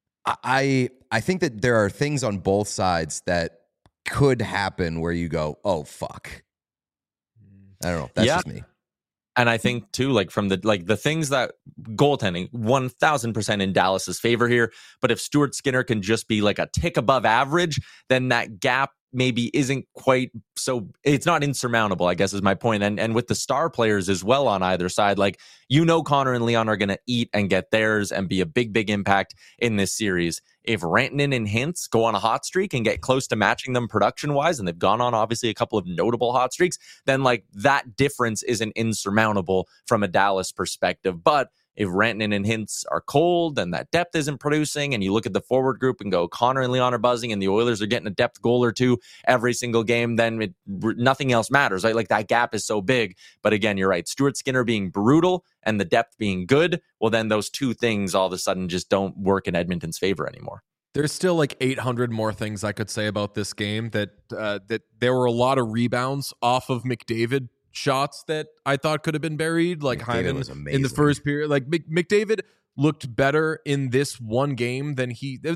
I think that there are things on both sides that could happen where you go, oh, fuck. I don't know. That's just me. And I think too, like from the things that goaltending 1000% in Dallas's favor here. But if Stuart Skinner can just be like a tick above average, then that gap maybe isn't quite so, it's not insurmountable, I guess is my point. And with the star players as well on either side, like, Connor and Leon are going to eat and get theirs and be a big impact in this series. If Rantanen and Hintz go on a hot streak and get close to matching them production wise, and they've gone on obviously a couple of notable hot streaks, then like that difference isn't insurmountable from a Dallas perspective. But if Rantanen and Hintz are cold and that depth isn't producing, and you look at the forward group and go, Connor and Leon are buzzing and the Oilers are getting a depth goal or two every single game, then nothing else matters, right? Like that gap is so big. But again, you're right. Stuart Skinner being brutal and the depth being good, well, then those two things all of a sudden just don't work in Edmonton's favor anymore. There's still like 800 more things I could say about this game. That there were a lot of rebounds off of McDavid shots that I thought could have been buried, like Hyman in the first period. Like McDavid looked better in this one game than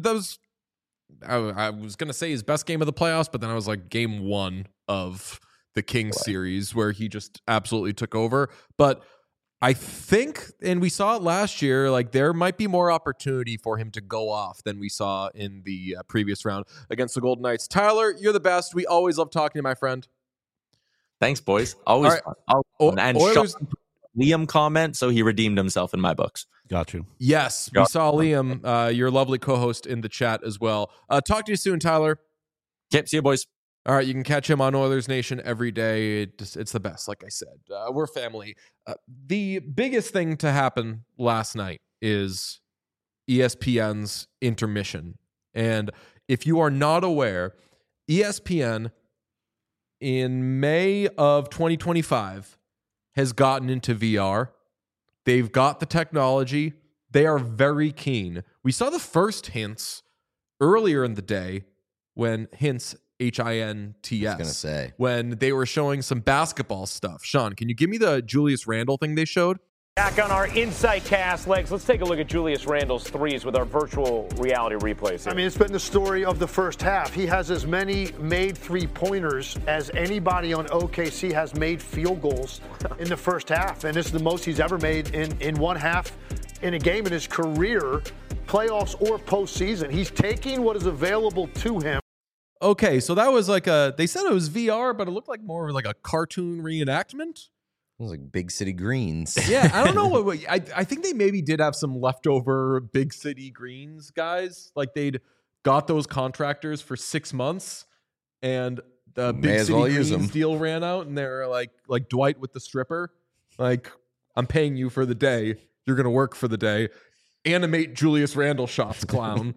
I was going to say his best game of the playoffs, but then I was like game 1 of the Kings series where he just absolutely took over. But I think, and we saw it last year, like there might be more opportunity for him to go off than we saw in the previous round against the Golden Knights. Tyler, you're the best. We always love talking to you, my friend. Thanks, boys. Always fun. And Oilers, Liam comment, so he redeemed himself in my books. Got you. Yes, we saw Liam, your lovely co-host, in the chat as well. Talk to you soon, Tyler. Okay, see you, boys. All right, you can catch him on Oilers Nation every day. It's the best, like I said. We're family. The biggest thing to happen last night is ESPN's intermission. And if you are not aware, ESPN in May of 2025 has gotten into VR. They've got the technology. They are very keen. We saw the first hints earlier in the day when Hints, I was HINTS, gonna say. when they were showing some basketball stuff. Sean, can you give me the Julius Randle thing they showed? Back on our Insight Cast legs, let's take a look at Julius Randle's threes with our virtual reality replays here. I mean, it's been the story of the first half. He has as many made three-pointers as anybody on OKC has made field goals in the first half. And this is the most he's ever made in one half in a game in his career, playoffs or postseason. He's taking what is available to him. Okay, so that was like they said it was VR, but it looked like more like a cartoon reenactment. It was like Big City Greens. Yeah, I don't know what I think they maybe did have some leftover Big City Greens guys. Like they'd got those contractors for 6 months, and the May Big as City well use Greens them. deal ran out, and they're like Dwight with the stripper. Like, I'm paying you for the day. You're gonna work for the day. Animate Julius Randle shots, clown.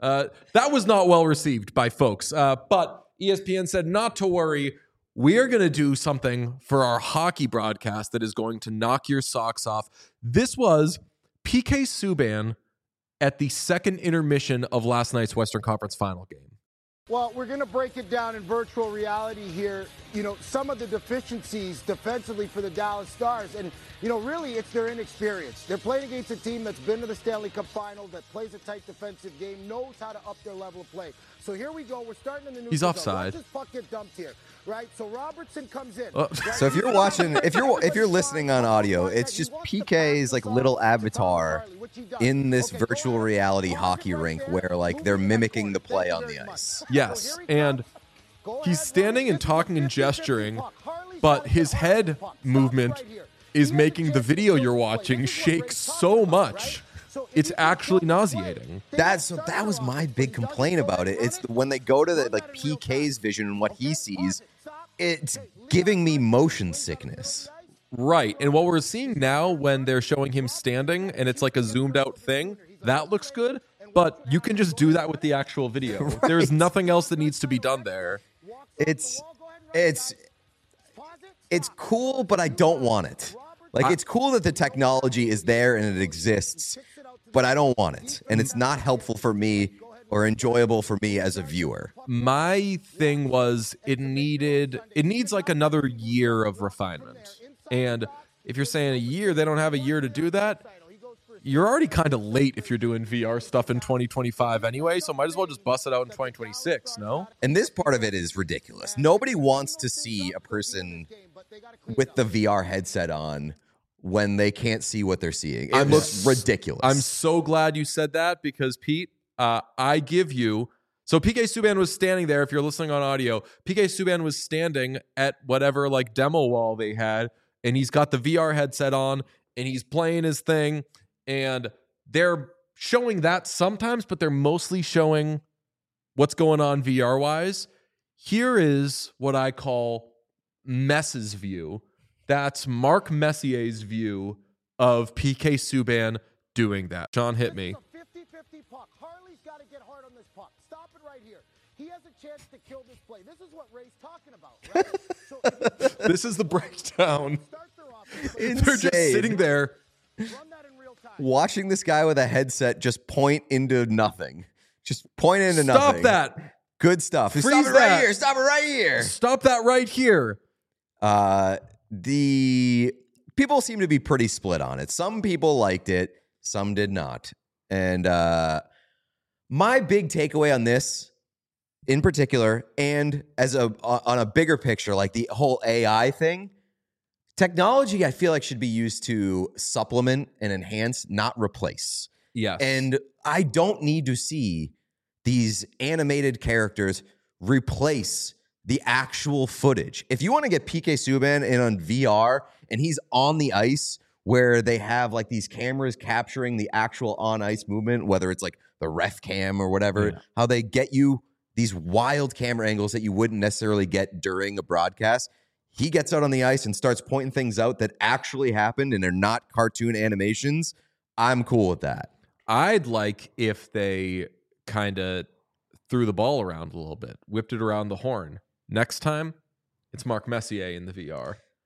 That was not well received by folks. But ESPN said not to worry. We are going to do something for our hockey broadcast that is going to knock your socks off. This was PK Subban at the second intermission of last night's Western Conference Final game. Well, we're going to break it down in virtual reality here. You know, some of the deficiencies defensively for the Dallas Stars. And, you know, really it's their inexperience. They're playing against a team that's been to the Stanley Cup final, that plays a tight defensive game, knows how to up their level of play. So here we go. We're starting in the neutral He's zone. offside. Watch this puck get dumped here, right? So Robertson comes in. Oh. So if you're watching, if you're listening on audio, it's just PK's like little avatar in this virtual reality hockey rink where like they're mimicking the play on the ice. Yes, and he's standing and talking and gesturing, but his head movement is making the video you're watching shake so much. It's actually nauseating. That was my big complaint about it. It's when they go to the like PK's vision and what he sees, it's giving me motion sickness. Right. And what we're seeing now when they're showing him standing and it's like a zoomed out thing, that looks good. But you can just do that with the actual video. Right. There's nothing else that needs to be done there. It's cool, but I don't want it. Like, it's cool that the technology is there and it exists, but I don't want it. And it's not helpful for me or enjoyable for me as a viewer. My thing was it needs like another year of refinement. And if you're saying a year, they don't have a year to do that. You're already kind of late if you're doing VR stuff in 2025 anyway, so might as well just bust it out in 2026, no? And this part of it is ridiculous. Nobody wants to see a person with the VR headset on when they can't see what they're seeing. It looks ridiculous. I'm so glad you said that because, Pete, I give you... So PK Subban was standing there, if you're listening on audio, PK Subban was standing at whatever like demo wall they had, and he's got the VR headset on, and he's playing his thing, and they're showing that sometimes, but they're mostly showing what's going on VR-wise. Here is what I call Mess's view. That's Mark Messier's view of PK Subban doing that. Sean, hit me. 50-50 puck. Harley's got to get hard on this puck. Stop it right here. He has a chance to kill this play. This is what Ray's talking about, right? So this is the breakdown. Insane. They're just sitting there. run that in real time. Watching this guy with a headset just point into nothing. Just point into nothing. Stop that. Good stuff. Freeze Stop it that. right here. Stop it right here. Stop that right here. The people seem to be pretty split on it. Some people liked it, some did not. And my big takeaway on this in particular, and as on a bigger picture, like the whole AI thing, technology I feel like should be used to supplement and enhance, not replace. Yes. And I don't need to see these animated characters replace the actual footage. If you want to get PK Subban in on VR and he's on the ice where they have like these cameras capturing the actual on ice movement, whether it's like the ref cam or whatever, how they get you these wild camera angles that you wouldn't necessarily get during a broadcast. He gets out on the ice and starts pointing things out that actually happened and they're not cartoon animations. I'm cool with that. I'd like if they kind of threw the ball around a little bit, whipped it around the horn. Next time, it's Mark Messier in the VR.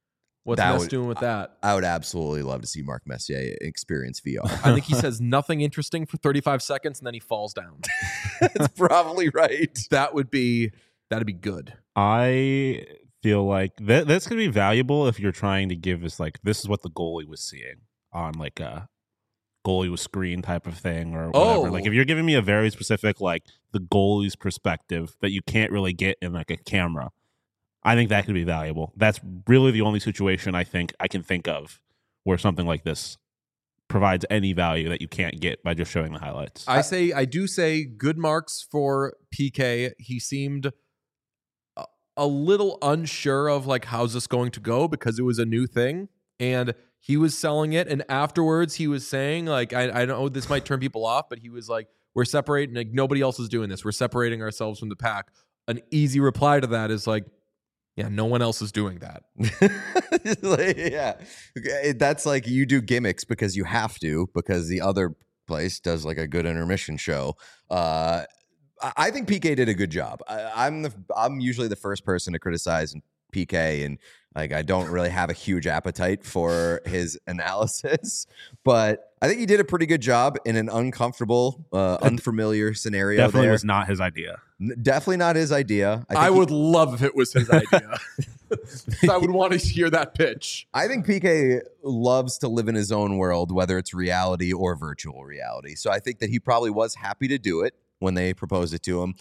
What's That Ness would- doing with that? I would absolutely love to see Mark Messier experience VR. I think he says nothing interesting for 35 seconds and then he falls down. That's probably right. That'd be good. I feel like that's going to be valuable if you're trying to give us like, this is what the goalie was seeing on like a goalie with screen type of thing or whatever. Oh. Like if you're giving me a very specific, like the goalie's perspective that you can't really get in like a camera, I think that could be valuable. That's really the only situation I think I can think of where something like this provides any value that you can't get by just showing the highlights. I do say good marks for PK. He seemed a little unsure of like how's this going to go because it was a new thing and he was selling it. And afterwards he was saying like, I know this might turn people off, but he was like, we're separating, like nobody else is doing this. We're separating ourselves from the pack. An easy reply to that is like, yeah, no one else is doing that. Yeah. That's like you do gimmicks because you have to, because the other place does like a good intermission show. I think PK did a good job. I'm usually the first person to criticize PK, and like I don't really have a huge appetite for his analysis, but I think he did a pretty good job in an uncomfortable, unfamiliar scenario. Definitely there. was not his idea. Definitely not his idea. I would love if it was his idea. I would want to hear that pitch. I think PK loves to live in his own world, whether it's reality or virtual reality. So I think that he probably was happy to do it when they proposed it to him.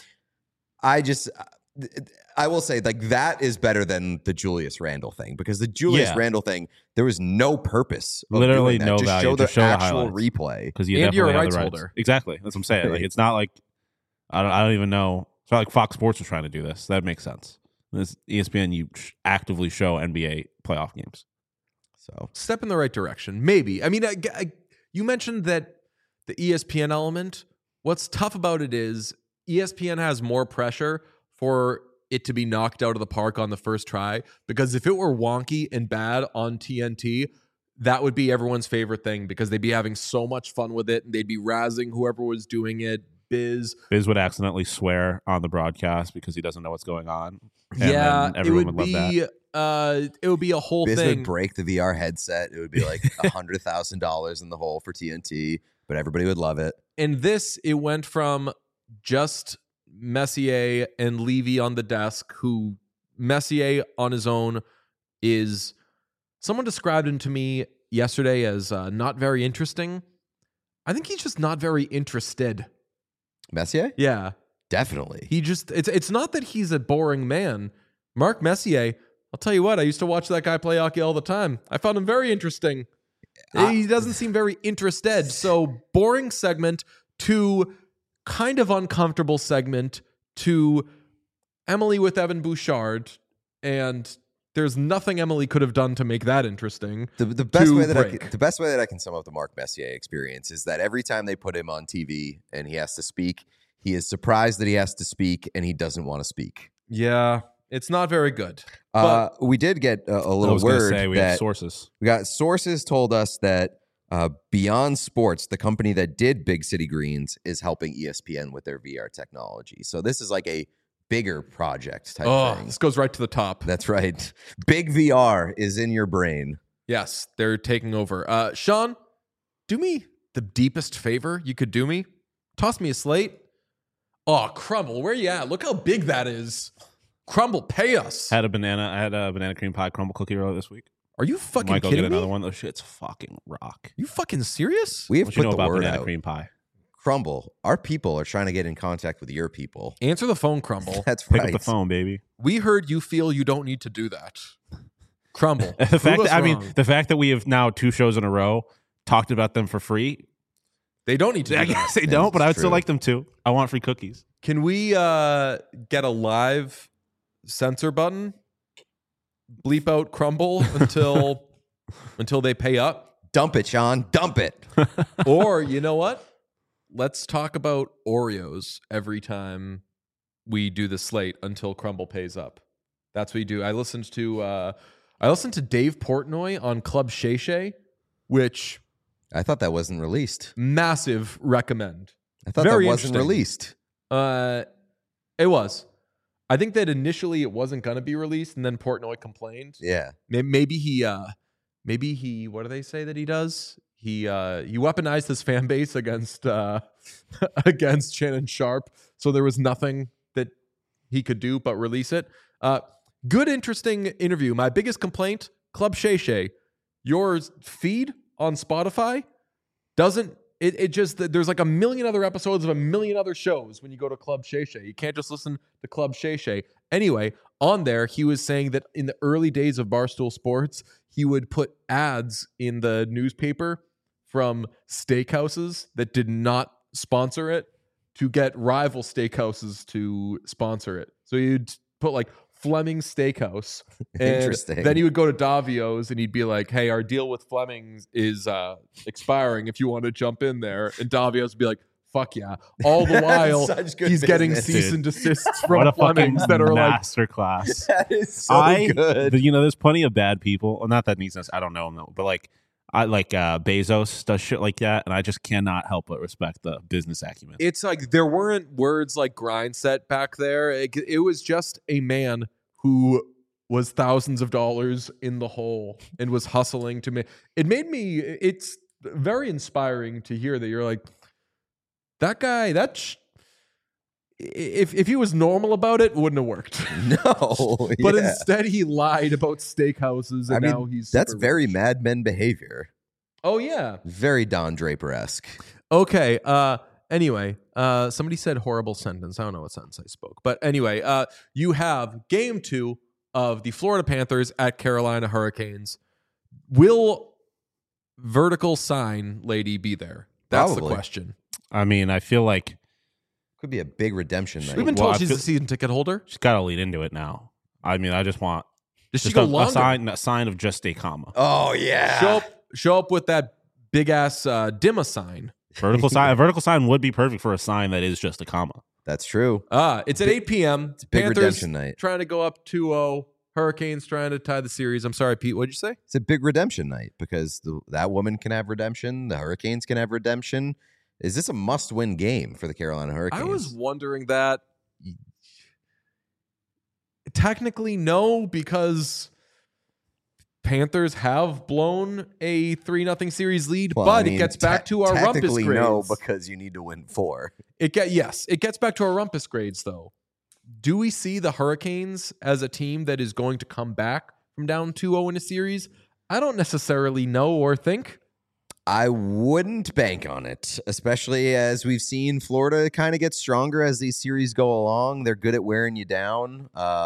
I will say, like, that is better than the Julius Randle thing, because the Julius Randle thing, there was no purpose. Of Literally doing that. no Just value. Show the Just show the actual highlights. replay. Because And you're a have rights the holder. Exactly. That's what I'm saying. Like, it's not like I don't even know. It's not like Fox Sports was trying to do this. That makes sense. This ESPN, you actively show NBA playoff games. So Step in the right direction. Maybe. I mean, you mentioned that the ESPN element. What's tough about it is ESPN has more pressure for it to be knocked out of the park on the first try, because if it were wonky and bad on TNT, that would be everyone's favorite thing because they'd be having so much fun with it and they'd be razzing whoever was doing it. Biz would accidentally swear on the broadcast because he doesn't know what's going on. And yeah, then everyone would love that. It would be a whole Biz thing. would break the VR headset. It would be like $100,000 in the hole for TNT, but everybody would love it. And this, it went from just Messier and Levy on the desk, who Messier on his own is, someone described him to me yesterday as not very interesting. I think he's just not very interested. Messier? Yeah. Definitely. He just, it's not that he's a boring man. Mark Messier, I'll tell you what, I used to watch that guy play hockey all the time. I found him very interesting. He doesn't seem very interested. So boring segment to kind of uncomfortable segment to Emily with Evan Bouchard, and there's nothing Emily could have done to make that interesting. The best way that break. the best way that I can sum up the Mark Messier experience is that every time they put him on TV and he has to speak, he is surprised that he has to speak and he doesn't want to speak. Yeah, it's not very good. We did get a I little was going to word say we have that sources. we got sources told us that Beyond Sports, the company that did Big City Greens, is helping ESPN with their VR technology. So this is like a bigger project type thing. This goes right to the top. That's right. Big VR is in your brain. Yes, they're taking over. Sean, do me the deepest favor you could do me. Toss me a slate. Oh, Crumble, where you at? Look how big that is. Crumble, pay us. I had a banana cream pie crumble cookie earlier this week. Are you fucking Might go kidding get me? another one. Those shit's fucking rock. You fucking serious? We have What you put know the about word banana out. cream pie? Crumble, our people are trying to get in contact with your people. Answer the phone, Crumble. That's Pick right. up the phone, baby. We heard you feel you don't need to do that. Crumble. The fact prove that us wrong. the fact that we have now 2 shows in a row talked about them for free. They don't need to do I that. guess they don't, but I would still true. like them to. I want free cookies. Can we get a live censor button? Bleep out Crumble until they pay up? Dump it, Sean. Dump it. Or, you know what? Let's talk about Oreos every time we do the slate until Crumble pays up. That's what we do. I listened to Dave Portnoy on Club Shay Shay, which I thought that wasn't released. massive recommend. I thought Very that wasn't interesting. released. It was. I think that initially it wasn't going to be released, and then Portnoy complained. Yeah. Maybe he, what do they say that he does? He weaponized his fan base against against Shannon Sharp, so there was nothing that he could do but release it. Good, interesting interview. My biggest complaint, Club Shay Shay, your feed on Spotify doesn't. It just, there's like a million other episodes of a million other shows when you go to Club Shay Shay. You can't just listen to Club Shay Shay. Anyway, on there, he was saying that in the early days of Barstool Sports, he would put ads in the newspaper from steakhouses that did not sponsor it to get rival steakhouses to sponsor it. So you'd put like Fleming's Steakhouse. And Interesting. then he would go to Davio's and he'd be like, hey, our deal with Fleming's is expiring if you want to jump in there. And Davio's would be like, fuck yeah. All the while, Such good he's getting business, cease dude. and desists What from a fucking Fleming's that are like, masterclass. That is so good. There's plenty of bad people. Well, not that needs sense. I don't know him though, but like Bezos does shit like that, and I just cannot help but respect the business acumen. it's like there weren't words like grind set back there. It was just a man who was thousands of dollars in the hole and was hustling to make it. Made me, it's very inspiring to hear that you're like, that guy, if he was normal about it, wouldn't have worked. No. But yeah. instead he lied about steakhouses and now he's that's super very rich. Mad Men behavior. Oh yeah. Very Don Draper-esque. Okay. Anyway, somebody said horrible sentence. I don't know what sentence I spoke. But anyway, you have game 2 of the Florida Panthers at Carolina Hurricanes. Will vertical sign lady be there? That's Probably. the question. I mean, I feel like Could be a big redemption night. We've been Well, told I she's feel- a season ticket holder. she's got to lead into it now. I mean, I just want Does she just go a longer? sign of just a comma. Oh, yeah. Show up with that big ass Dimma sign. Vertical sign. A vertical sign would be perfect for a sign that is just a comma. That's true. It's at 8 p.m. It's big Panthers redemption night. trying to go up 2-0. Hurricanes trying to tie the series. I'm sorry, Pete. What'd you say? It's a big redemption night because that woman can have redemption. The Hurricanes can have redemption. Is this a must-win game for the Carolina Hurricanes? I was wondering that. Technically, no, because Panthers have blown a 3-0 series lead, Well, but I mean, it gets back to our rumpus technically grades. no, because you need to win 4. It gets back to our rumpus grades, though. Do we see the Hurricanes as a team that is going to come back from down 2-0 in a series? I don't necessarily know or think. I wouldn't bank on it, especially as we've seen Florida kind of get stronger as these series go along. They're good at wearing you down.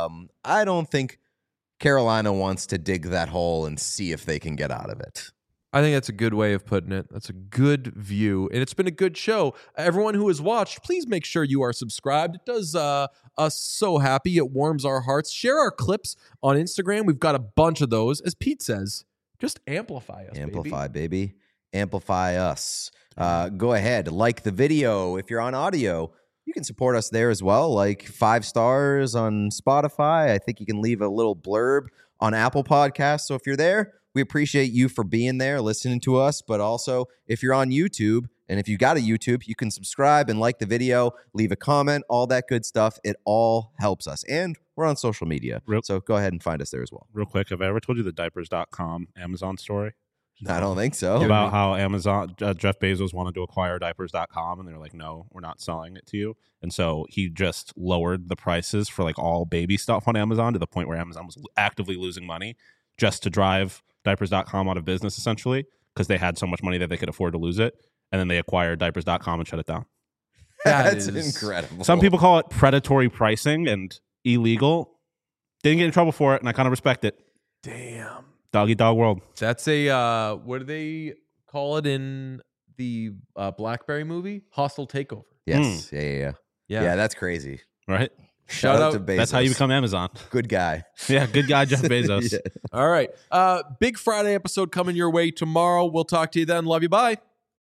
I don't think Carolina wants to dig that hole and see if they can get out of it. I think that's a good way of putting it. That's a good view. And it's been a good show. Everyone who has watched, please make sure you are subscribed. It does us so happy. It warms our hearts. Share our clips on Instagram. We've got a bunch of those. As Pete says, just amplify us, Amplify, baby. Amplify us. Go ahead, like the video. If you're on audio, you can support us there as well. Like 5 stars on Spotify. I think you can leave a little blurb on Apple Podcasts. So if you're there, we appreciate you for being there, listening to us. But also, if you're on YouTube, and if you got a YouTube, you can subscribe and like the video, leave a comment, all that good stuff. It all helps us. And we're on social media. So go ahead and find us there as well. Real quick, have I ever told you the diapers.com Amazon story? I don't think so. About how Amazon, Jeff Bezos wanted to acquire diapers.com and they're like, no, we're not selling it to you. And so he just lowered the prices for like all baby stuff on Amazon to the point where Amazon was actively losing money just to drive diapers.com out of business, essentially, because they had so much money that they could afford to lose it. And then they acquired diapers.com and shut it down. That's is incredible. Some people call it predatory pricing and illegal. Didn't get in trouble for it, and I kind of respect it. Damn. Doggy dog world. That's a, what do they call it in the BlackBerry movie? Hostile takeover. Yes. Yeah. Yeah, that's crazy. Right? Shout out to Bezos. That's how you become Amazon. Good guy. Yeah, good guy, Jeff Bezos. Yeah. All right. Big Friday episode coming your way tomorrow. We'll talk to you then. Love you. Bye.